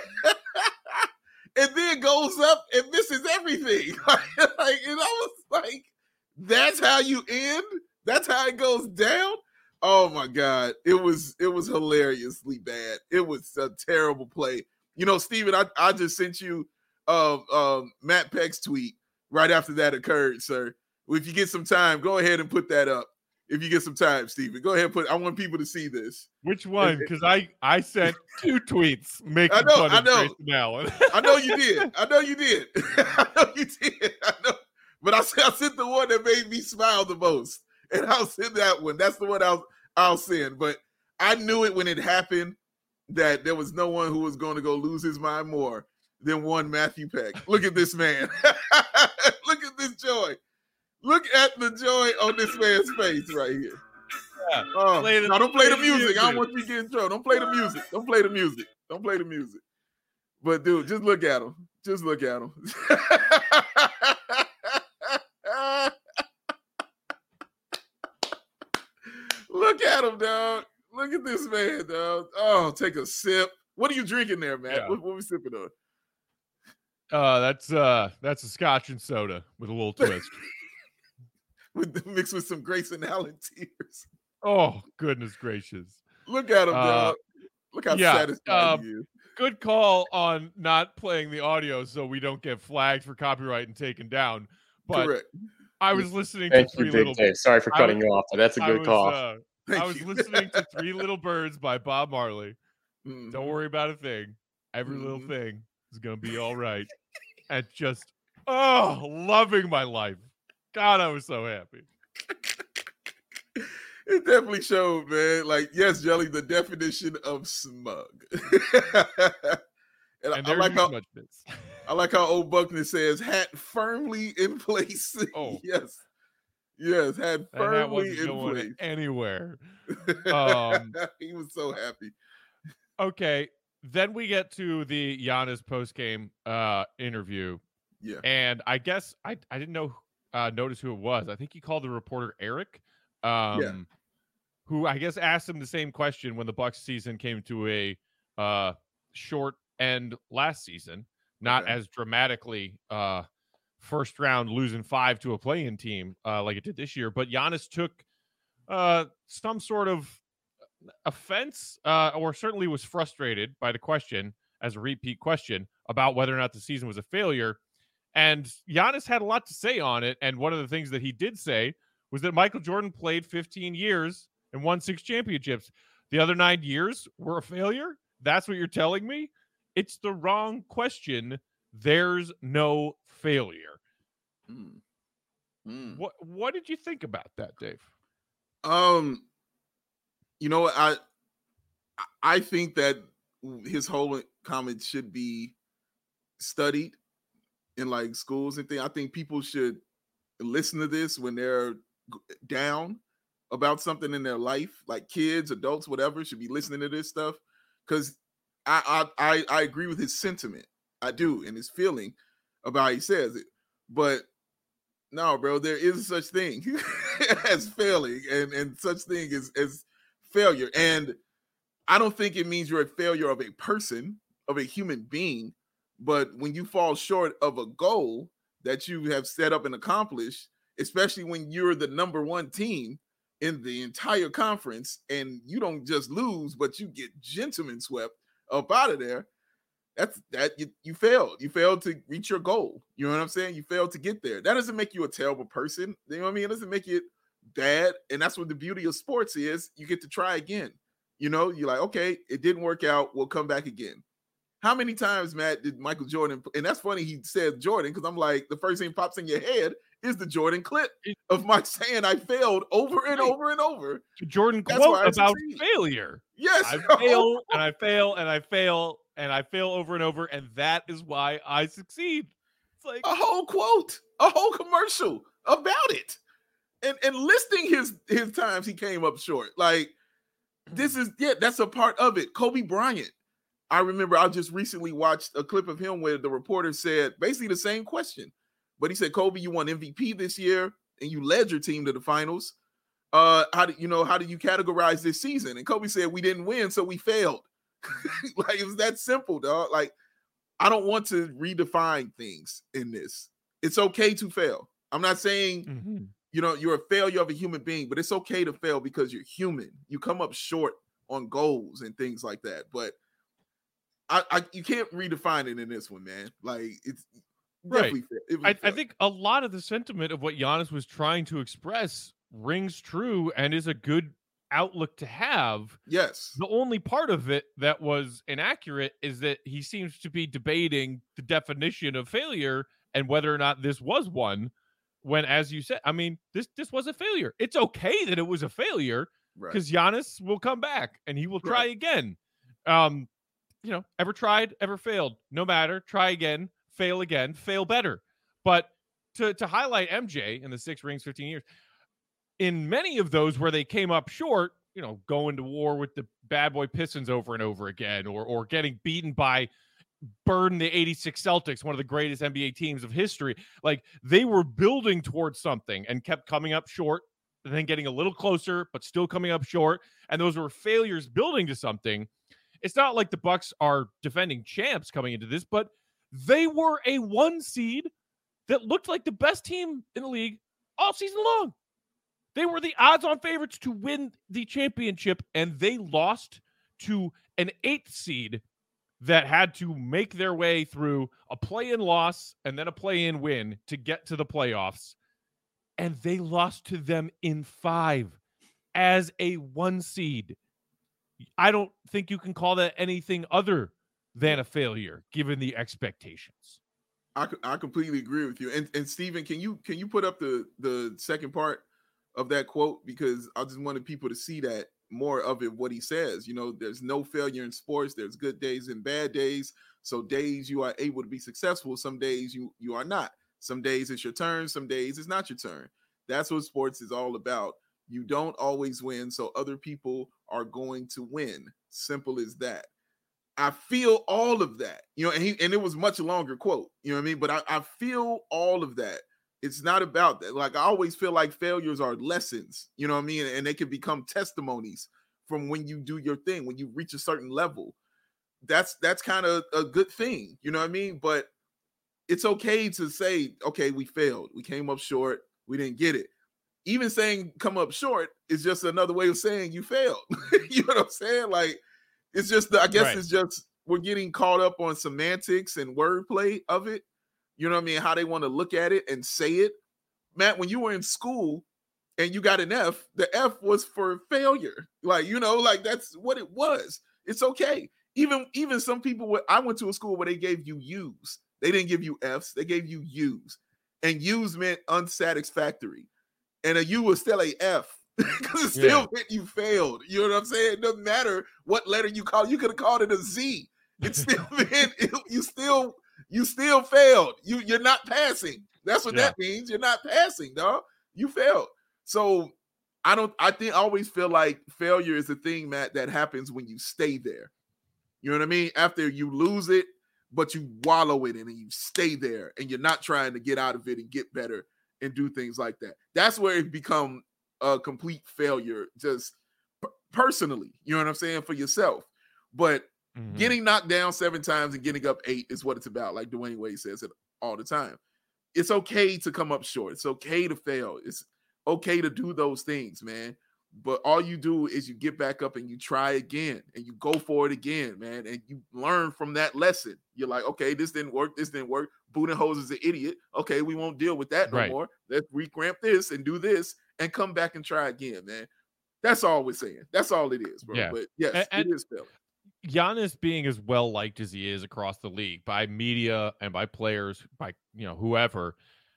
And then goes up and misses everything. And I was like, that's how you end? That's how it goes down? Oh my God. It was hilariously bad. It was a terrible play. You know, Steven, I just sent you Matt Peck's tweet right after that occurred, sir. If you get some time, go ahead and put that up. If you get some time, Steven, go ahead and I want people to see this. Which one? Because I sent 2 tweets making fun of Grayson Allen. I know you did. I know you did. But I sent the one that made me smile the most. And I'll send that one. That's the one I'll send. But I knew it when it happened that there was no one who was going to go lose his mind more than one Matthew Peck. Look at this man. Look at this joy. Look at the joy on this man's face right here. Yeah. Don't play the music. I don't want you to get in trouble. Don't play the music. Don't play the music. Don't play the music. But dude, just look at him. Just look at him. Look at him, dog. Look at this man, dog. Oh, take a sip. What are you drinking there, man? Yeah. What are we sipping on? That's a scotch and soda with a little twist. Mixed with some Grayson Allen tears. Oh, goodness gracious. Look at him, dog. Look how satisfied he is. Good call on not playing the audio so we don't get flagged for copyright and taken down. But correct. I was listening to Three Little Birds. Sorry for cutting you off, but that's a good call. I was listening to 3 Little Birds by Bob Marley. Mm-hmm. Don't worry about a thing. Every little thing is going to be all right. And just, loving my life. God, I was so happy. It definitely showed, man. Like, yes, Jelly, the definition of smug. And I like how old Buckner says, hat firmly in place. Oh. Yes, hat firmly in place. Anywhere. He was so happy. Okay, then we get to the Giannis postgame interview. Yeah. And I guess I didn't notice who it was. I think he called the reporter Eric, who I guess asked him the same question when the Bucks season came to a short end last season, not as dramatically first round losing 5 to a play-in team like it did this year. But Giannis took some sort of offense or certainly was frustrated by the question as a repeat question about whether or not the season was a failure. And Giannis had a lot to say on it. And one of the things that he did say was that Michael Jordan played 15 years and won 6 championships. The other 9 years were a failure? That's what you're telling me? It's the wrong question. There's no failure. What did you think about that, Dave? You know what? I think that his whole comment should be studied in like schools and things. I think people should listen to this when they're down about something in their life, like kids, adults, whatever, should be listening to this stuff. Because I agree with his sentiment. I do, and his feeling about how he says it. But no, bro, there is such thing as failing and such thing as failure. And I don't think it means you're a failure of a person, of a human being. But when you fall short of a goal that you have set up and accomplished, especially when you're the number 1 team in the entire conference and you don't just lose, but you get gentleman swept up out of there, you failed. You failed to reach your goal. You know what I'm saying? You failed to get there. That doesn't make you a terrible person. You know what I mean? It doesn't make it bad. And that's what the beauty of sports is. You get to try again. You know, you're like, okay, it didn't work out. We'll come back again. How many times, Matt, did Michael Jordan, and that's funny he said Jordan, because I'm like, the first thing pops in your head is the Jordan clip of my saying I failed over and over and over. The Jordan That's quote why I about succeed. failure. Yes. I fail and I fail and I fail and I fail over and over, and that is why I succeed. It's like a whole quote, a whole commercial about it. And listing his times he came up short. Like, that's a part of it. Kobe Bryant. I remember I just recently watched a clip of him where the reporter said basically the same question. But he said, Kobe, you won MVP this year and you led your team to the finals. How do you categorize this season? And Kobe said, we didn't win, so we failed. Like, it was that simple, dog. Like, I don't want to redefine things in this. It's okay to fail. I'm not saying, you're a failure of a human being, but it's okay to fail because you're human. You come up short on goals and things like that. But you can't redefine it in this one, man. Like, it's definitely fair. I think a lot of the sentiment of what Giannis was trying to express rings true and is a good outlook to have. Yes. The only part of it that was inaccurate is that he seems to be debating the definition of failure and whether or not this was one, when, as you said, I mean, this was a failure. It's okay that it was a failure because Giannis will come back and he will try again. Ever tried, ever failed, no matter, try again, fail better. But to highlight MJ in the 6 rings, 15 years, in many of those where they came up short, going to war with the bad boy Pistons over and over again, or getting beaten by the 86 Celtics, one of the greatest NBA teams of history. Like, they were building towards something and kept coming up short, and then getting a little closer, but still coming up short. And those were failures building to something. It's not like the Bucks are defending champs coming into this, but they were a 1 seed that looked like the best team in the league all season long. They were the odds-on favorites to win the championship, and they lost to an 8th seed that had to make their way through a play-in loss and then a play-in win to get to the playoffs. And they lost to them in 5 as a 1 seed. I don't think you can call that anything other than a failure, given the expectations. I completely agree with you. And Steven, can you put up the second part of that quote? Because I just wanted people to see that more of it, what he says. There's no failure in sports. There's good days and bad days. So days you are able to be successful. Some days you are not. Some days it's your turn. Some days it's not your turn. That's what sports is all about. You don't always win, so other people are going to win. Simple as that. I feel all of that, and it was a much longer quote, you know what I mean? But I feel all of that. It's not about that. Like, I always feel like failures are lessons, you know what I mean? And they can become testimonies from when you do your thing, when you reach a certain level. That's kind of a good thing, you know what I mean? But it's okay to say, okay, we failed. We came up short. We didn't get it. Even saying come up short is just another way of saying you failed. You know what I'm saying? Like, it's just, it's just, we're getting caught up on semantics and wordplay of it. You know what I mean? How they want to look at it and say it. Matt, when you were in school and you got an F, the F was for failure. Like, that's what it was. It's okay. Even some people, I went to a school where they gave you U's. They didn't give you F's. They gave you U's. And U's meant unsatisfactory. And a U was still a F because it still meant you failed. You know what I'm saying? It doesn't matter what letter you call. You could have called it a Z. It still meant you still failed. You're not passing. That's what that means. You're not passing, dog. You failed. So I always feel like failure is a thing, Matt, that happens when you stay there. You know what I mean? After you lose it, but you wallow in it and you stay there and you're not trying to get out of it and get better and do things like that. That's where it become a complete failure, just personally, you know what I'm saying, for yourself. But getting knocked down 7 times and getting up 8 is what it's about. Like Dwayne Wade says it all the time. It's okay to come up short. It's okay to fail. It's okay to do those things, man. But all you do is you get back up and you try again and you go for it again, man. And you learn from that lesson. You're like, okay, this didn't work. Budenholzer is an idiot. Okay, we won't deal with that no more. Let's recramp this and do this and come back and try again, man. That's all we're saying. That's all it is, bro. Yeah. But yes, it is failing. Giannis being as well liked as he is across the league by media and by players, by whoever,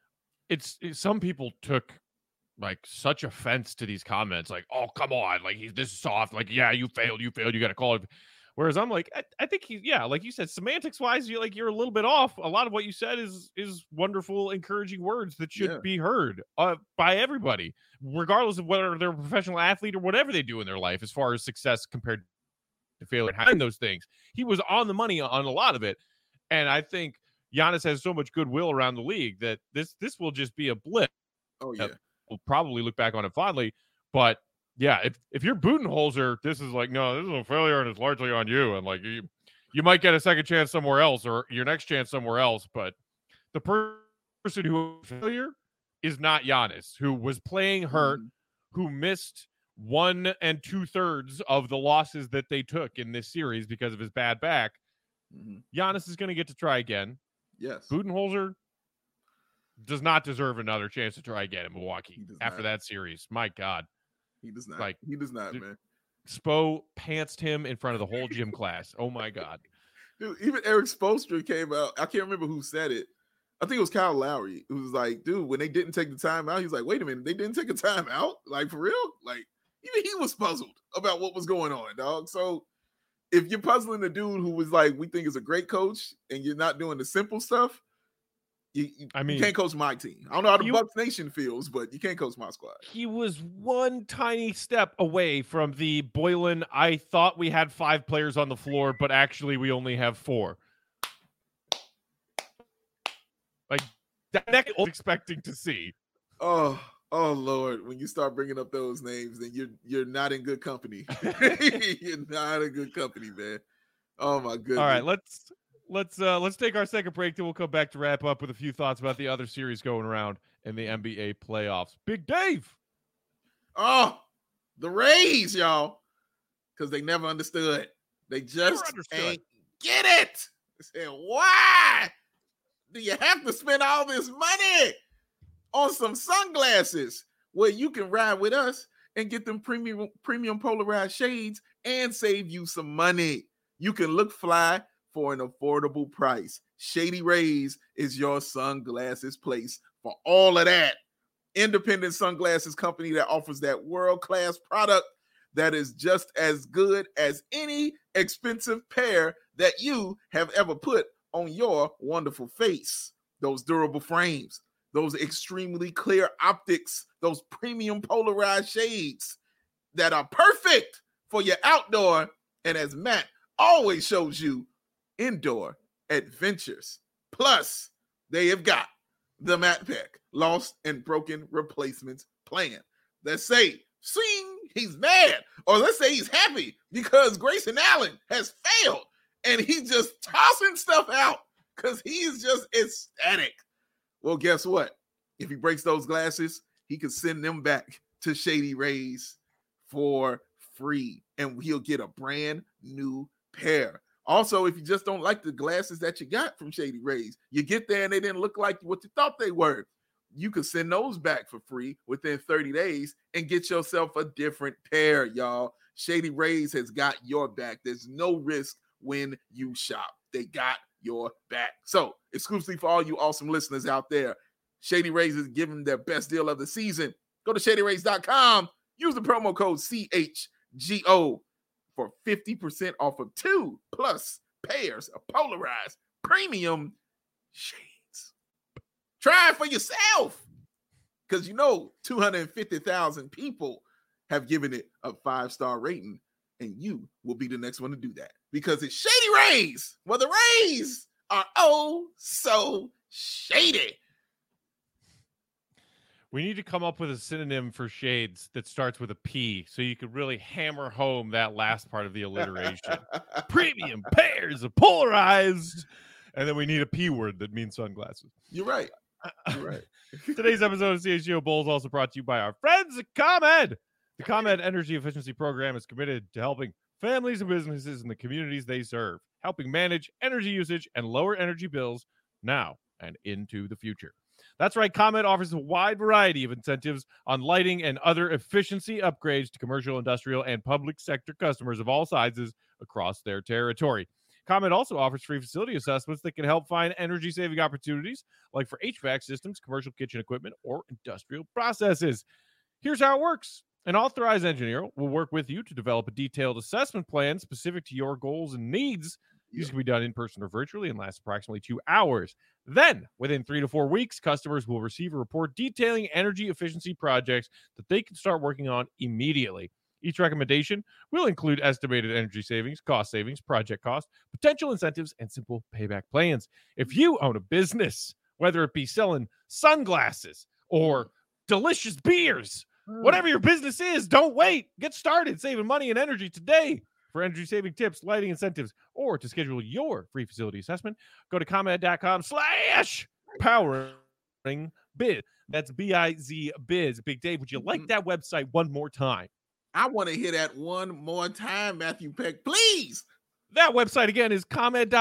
some people took like such offense to these comments, like, oh, come on, like this is soft, like, yeah, you failed, you got to call it. Whereas I'm like, I think like you said, semantics wise, you're a little bit off. A lot of what you said is wonderful, encouraging words that should be heard by everybody, regardless of whether they're a professional athlete or whatever they do in their life, as far as success compared to failure. Having those things, he was on the money on a lot of it, and I think Giannis has so much goodwill around the league that this will just be a blip. Oh yeah, we'll probably look back on it fondly, but yeah, if you're Budenholzer, this is like, no, this is a failure and it's largely on you, and like you might get a second chance somewhere else or your next chance somewhere else, but the person who failure is not Giannis, who was playing hurt, who missed 1 2/3 of the losses that they took in this series because of his bad back. Giannis is going to get to try again. Yes. Budenholzer does not deserve another chance to try again in Milwaukee after that series. My God. He does not. Like, he does not, man. Spo pantsed him in front of the whole gym class. Oh, my God. Dude, even Eric Spoelstra came out. I can't remember who said it. I think it was Kyle Lowry. It was like, dude, when they didn't take the time out, he's like, wait a minute, they didn't take a time out? Like, for real? Like, even he was puzzled about what was going on, dog. So if you're puzzling a dude who was like, we think is a great coach, and you're not doing the simple stuff, you can't coach my team. I don't know how the Bucks Nation feels, but you can't coach my squad. He was one tiny step away from the Boylen, I thought we had 5 players on the floor, but actually we only have 4. Like, that I was expecting to see. Oh Lord! When you start bringing up those names, then you're not in good company. You're not in good company, man. Oh my goodness! All right, let's take our second break. Then we'll come back to wrap up with a few thoughts about the other series going around in the NBA playoffs. Big Dave. Oh, the Rays, y'all, because they never understood. They just ain't get it. They said, why do you have to spend all this money on some sunglasses where you can ride with us and get them premium polarized shades and save you some money? You can look fly for an affordable price. Shady Rays is your sunglasses place for all of that. Independent sunglasses company that offers that world-class product that is just as good as any expensive pair that you have ever put on your wonderful face. Those durable frames, those extremely clear optics, those premium polarized shades that are perfect for your outdoor, and as Matt always shows you, indoor adventures. Plus, they have got the Matt Peck lost and broken replacements plan. Let's say, sing, he's mad, or let's say he's happy because Grayson Allen has failed and he's just tossing stuff out because he's just ecstatic. Well, guess what? If he breaks those glasses, he can send them back to Shady Rays for free, and he'll get a brand new pair. Also, if you just don't like the glasses that you got from Shady Rays, you get there and they didn't look like what you thought they were, you can send those back for free within 30 days and get yourself a different pair, y'all. Shady Rays has got your back. There's no risk when you shop. They got your back. So, exclusively for all you awesome listeners out there, Shady Rays is giving their best deal of the season. Go to ShadyRays.com. Use the promo code CHGO for 50% off of 2+ pairs of polarized premium shades. Try it for yourself, because 250,000 people have given it a 5-star rating, and you will be the next one to do that because it's Shady Rays. Well, the Rays are oh so shady. We need to come up with a synonym for shades that starts with a P so you could really hammer home that last part of the alliteration. Premium pairs of polarized. And then we need a P word that means sunglasses. You're right. You're right. Today's episode of CHGO Bulls also brought to you by our friends at ComEd. The ComEd Energy Efficiency Program is committed to helping families and businesses in the communities they serve, helping manage energy usage and lower energy bills now and into the future. That's right, ComEd offers a wide variety of incentives on lighting and other efficiency upgrades to commercial, industrial, and public sector customers of all sizes across their territory. ComEd also offers free facility assessments that can help find energy-saving opportunities, like for HVAC systems, commercial kitchen equipment, or industrial processes. Here's how it works. An authorized engineer will work with you to develop a detailed assessment plan specific to your goals and needs. These can be done in person or virtually and last approximately 2 hours. Then, within 3 to 4 weeks, customers will receive a report detailing energy efficiency projects that they can start working on immediately. Each recommendation will include estimated energy savings, project cost, potential incentives, and simple payback plans. If you own a business, whether it be selling sunglasses or delicious beers, whatever your business is, don't wait. Get started saving money and energy today. For energy saving tips, lighting incentives, or to schedule your free facility assessment, go to ComEd.com/powering-biz. That's B-I-Z biz. Big Dave, would you like that website one more time? I want to hear that one more time, Matthew Peck, please. That website again is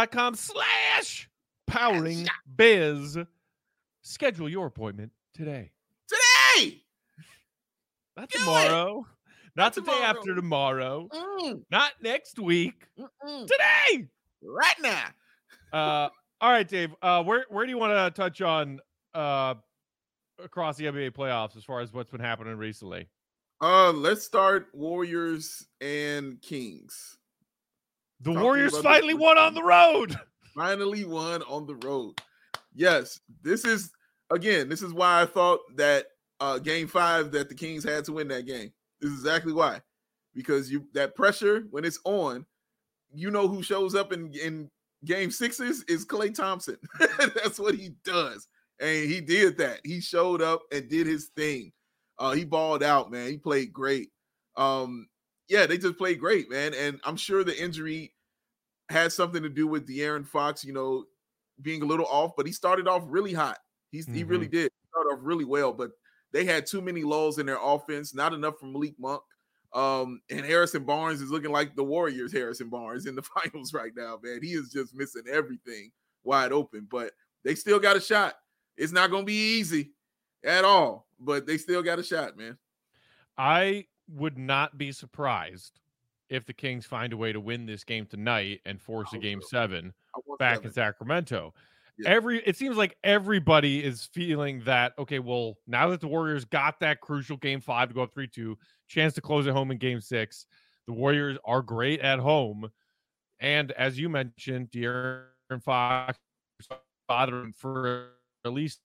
ComEd.com/powering-biz. Schedule your appointment today. Today! Not tomorrow. Not the day after tomorrow. Not next week. Today. Right now. All right, Dave. Where do you want to touch on across the NBA playoffs as far as what's been happening recently? Let's start Warriors and Kings. The Warriors finally won on the road. Finally won on the road. Yes, this is why I thought that game 5 that the Kings had to win that game. This is exactly why. Because that pressure, when it's on, you know who shows up in game 6s is Klay Thompson. That's what he does. And he did that. He showed up and did his thing. He balled out, man. He played great. They just played great, man. And I'm sure the injury had something to do with De'Aaron Fox, being a little off, but he started off really hot. He really did. He started off really well, but they had too many lulls in their offense, not enough from Malik Monk. And Harrison Barnes is looking like the Warriors' Harrison Barnes in the finals right now, man. He is just missing everything wide open, but they still got a shot. It's not going to be easy at all, but they still got a shot, man. I would not be surprised if the Kings find a way to win this game tonight and force a game 7 back in Sacramento. Yeah. It seems like everybody is feeling that, okay, well, now that the Warriors got that crucial game 5 to go up 3-2, chance to close at home in game 6, the Warriors are great at home. And as you mentioned, De'Aaron Fox bothering for at least,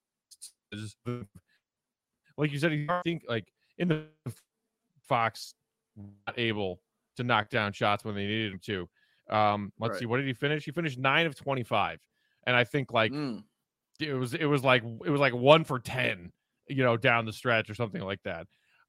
like you said, I think like in the Fox not able to knock down shots when they needed him to. Let's see, what did he finish? He finished 9 of 25. And I think like it was like 1 for 10, down the stretch or something like that.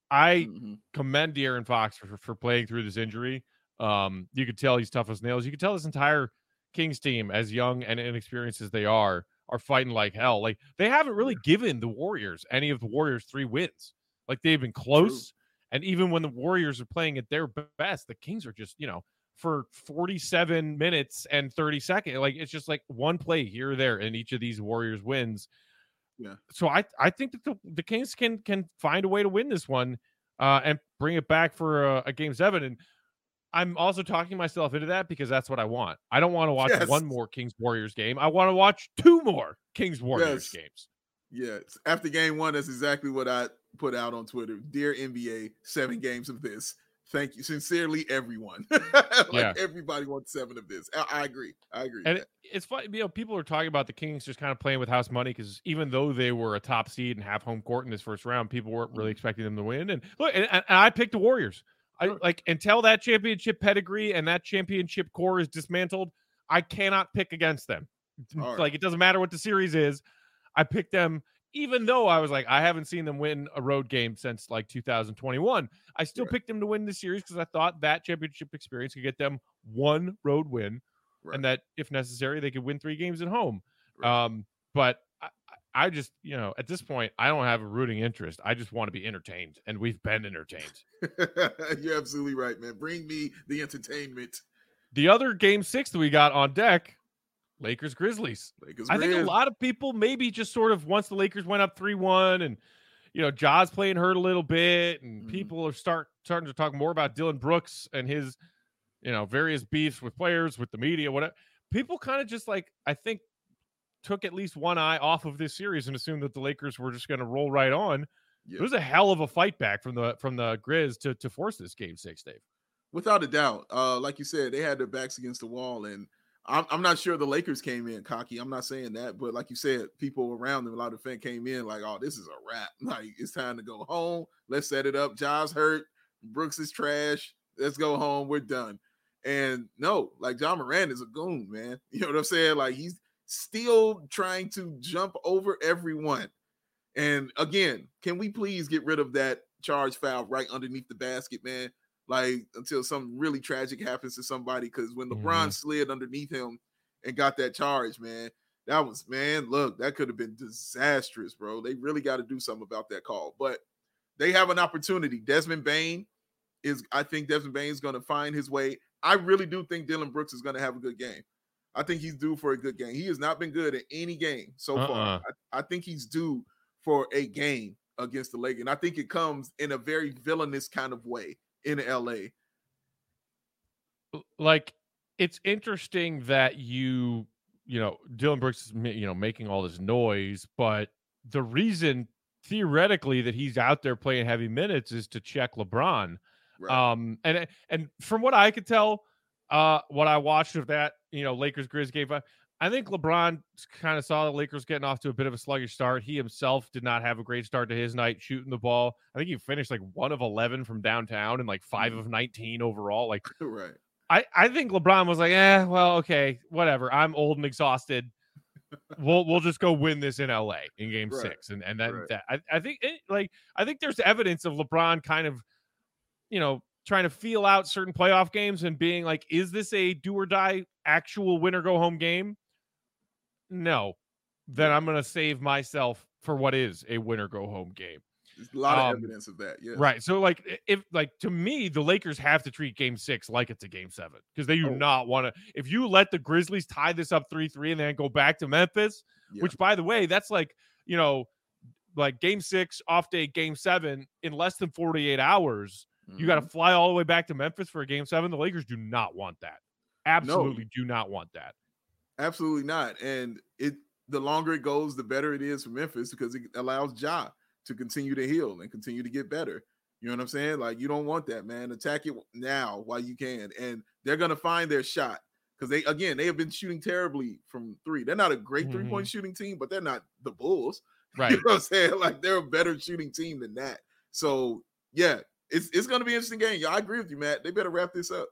I commend De'Aaron Fox for playing through this injury. You could tell he's tough as nails. You could tell this entire Kings team, as young and inexperienced as they are fighting like hell. Like they haven't really given the Warriors any of the Warriors 3 wins. Like they've been close. True. And even when the Warriors are playing at their best, the Kings are just, for 47 minutes and 30 seconds. Like it's just like one play here or there in each of these Warriors wins. Yeah. So I think that the Kings can find a way to win this one and bring it back for a game 7. And I'm also talking myself into that because that's what I want. I don't want to watch one more Kings Warriors game. I want to watch 2 more Kings Warriors games. Yes. After game 1, that's exactly what I put out on Twitter. Dear NBA, 7 games of this. Thank you. Sincerely, everyone. Everybody wants 7 of this. I agree. And it's funny, people are talking about the Kings just kind of playing with house money because even though they were a top seed and have home court in this first round, people weren't really expecting them to win. And look, and I picked the Warriors. Sure. Until that championship pedigree and that championship core is dismantled, I cannot pick against them. Right. Like it doesn't matter what the series is. I picked them. Even though I was like, I haven't seen them win a road game since like 2021, I still picked them to win the series because I thought that championship experience could get them 1 road win, and that if necessary, they could win 3 games at home. Right. But I just, at this point, I don't have a rooting interest. I just want to be entertained, and we've been entertained. You're absolutely right, man. Bring me the entertainment. The other game 6 that we got on deck, Lakers Grizzlies. I think a lot of people maybe just sort of once the Lakers went up 3-1 and Ja's playing hurt a little bit and people are starting to talk more about Dylan Brooks and his various beefs with players, with the media, whatever. people kind of just like, I think, took at least one eye off of this series and assumed that the Lakers were just going to roll right on. Yeah. It was a hell of a fight back from the Grizz to force this game 6, Dave. Without a doubt. Like you said, they had their backs against the wall, and I'm not sure the Lakers came in cocky. I'm not saying that, but like you said, people around them, a lot of fans came in like, oh, this is a wrap. Like, it's time to go home. Let's set it up. Ja's hurt. Brooks is trash. Let's go home. We're done. And no, like, Ja Morant is a goon, man. You know what I'm saying? Like, he's still trying to jump over everyone. And again, can we please get rid of that charge foul right underneath the basket, man? Like, until something really tragic happens to somebody. Because when LeBron slid underneath him and got that charge, man, look, that could have been disastrous, bro. They really got to do something about that call. But they have an opportunity. I think Desmond Bane is going to find his way. I really do think Dillon Brooks is going to have a good game. I think he's due for a good game. He has not been good at any game so far. I think he's due for a game against the Lakers. And I think it comes in a very villainous kind of way in LA. Like, it's interesting that you know, Dillon Brooks is, you know, making all this noise, but the reason theoretically that he's out there playing heavy minutes is to check LeBron. Right. And from what I could tell, what I watched of that, you know, Lakers Grizz game, I think LeBron kind of saw the Lakers getting off to a bit of a sluggish start. He himself did not have a great start to his night shooting the ball. I think he finished like 1 of 11 from downtown and like 5 of 19 overall. Like, right. I think LeBron was like, well, okay, whatever. I'm old and exhausted. We'll just go win this in LA in game 6. And then I think there's evidence of LeBron kind of, you know, trying to feel out certain playoff games and being like, is this a do or die actual win or go home game? No. Then I'm going to save myself for what is a win or go home game. There's a lot of evidence of that. Yeah. Right. So to me, the Lakers have to treat game 6 like it's a game 7, because they do not want to. If you let the Grizzlies tie this up 3-3 and then go back to Memphis, which, by the way, that's like, you know, like game 6 off day, game 7 in less than 48 hours. You got to fly all the way back to Memphis for a game 7. The Lakers do not want that. Absolutely do not want that. Absolutely not. And the longer it goes, the better it is for Memphis, because it allows Ja to continue to heal and continue to get better. You know what I'm saying? Like, you don't want that, man. Attack it now while you can. And they're going to find their shot, because they have been shooting terribly from 3. They're not a great 3-point shooting team, but they're not the Bulls. Right. You know what I'm saying? Like, they're a better shooting team than that. So, yeah, it's going to be an interesting game. Yeah, I agree with you, Matt. They better wrap this up.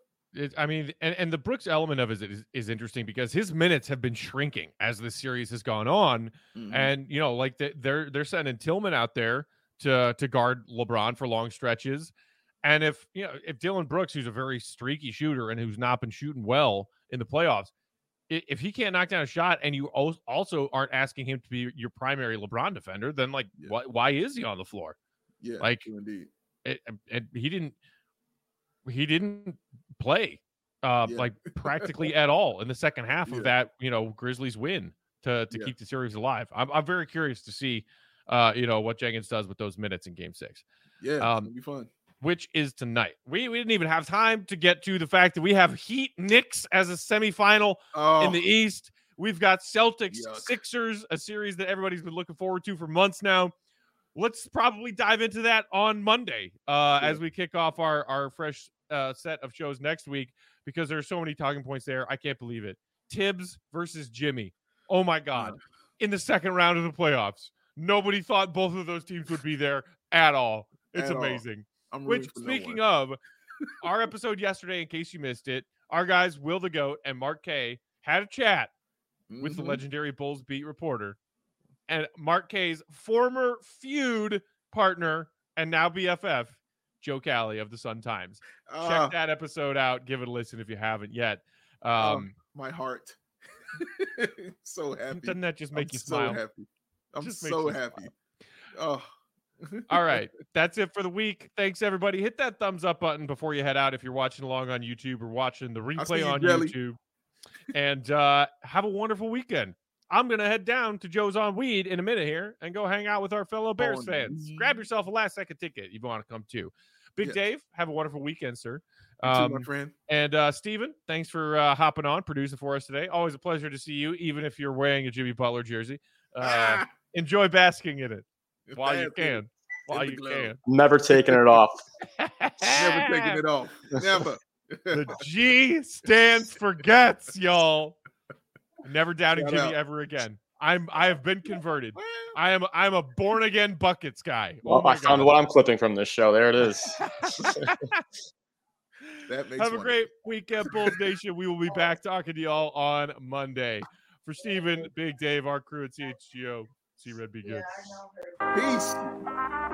And the Brooks element of it is interesting, because his minutes have been shrinking as the series has gone on. And, you know, like they're sending Tillman out there to guard LeBron for long stretches. And if Dillon Brooks, who's a very streaky shooter and who's not been shooting well in the playoffs, if he can't knock down a shot, and you also aren't asking him to be your primary LeBron defender, then like, why is he on the floor? Yeah, like, indeed. And he didn't play like practically at all in the second half of that, you know, Grizzlies win to keep the series alive. I'm very curious to see you know, what Jenkins does with those minutes in game 6. Yeah, it'll be fun. Which is tonight. We didn't even have time to get to the fact that we have Heat Knicks as a semifinal in the East. We've got Celtics Sixers, a series that everybody's been looking forward to for months now. Let's probably dive into that on Monday as we kick off our fresh set of shows next week, because there are so many talking points there. I can't believe it. Tibbs versus Jimmy. Oh, my God. In the second round of the playoffs. Nobody thought both of those teams would be there at all. It's amazing. Which, speaking of, our episode yesterday, in case you missed it, our guys Will the Goat and Mark K had a chat with the legendary Bulls beat reporter, and Mark K's former feud partner and now BFF, Joe Cali of the Sun Times. Check that episode out. Give it a listen if you haven't yet. My heart. So happy. Doesn't that just make you smile? So happy. I'm so happy. Oh. All right. That's it for the week. Thanks, everybody. Hit that thumbs up button before you head out if you're watching along on YouTube or watching the replay on YouTube. And have a wonderful weekend. I'm going to head down to Joe's on Weed in a minute here and go hang out with our fellow Bears fans. Grab yourself a last-second ticket if you want to come too. Big Yes. Dave, have a wonderful weekend, sir. You too, my friend. And Steven, thanks for hopping on, producing for us today. Always a pleasure to see you, even if you're wearing a Jimmy Butler jersey. Enjoy basking in it while you can. While you can. Never taking it off. Never taking it off. Never. The G stands for gets, y'all. Never doubting Shout Jimmy out. ever again. I have been converted. I'm a born again buckets guy. Well, I found what I'm clipping from this show. There it is. That makes Have a great weekend, Bulls Nation. We will be back talking to y'all on Monday. For Steven, Big Dave, our crew at CHGO, see Red be good. Peace.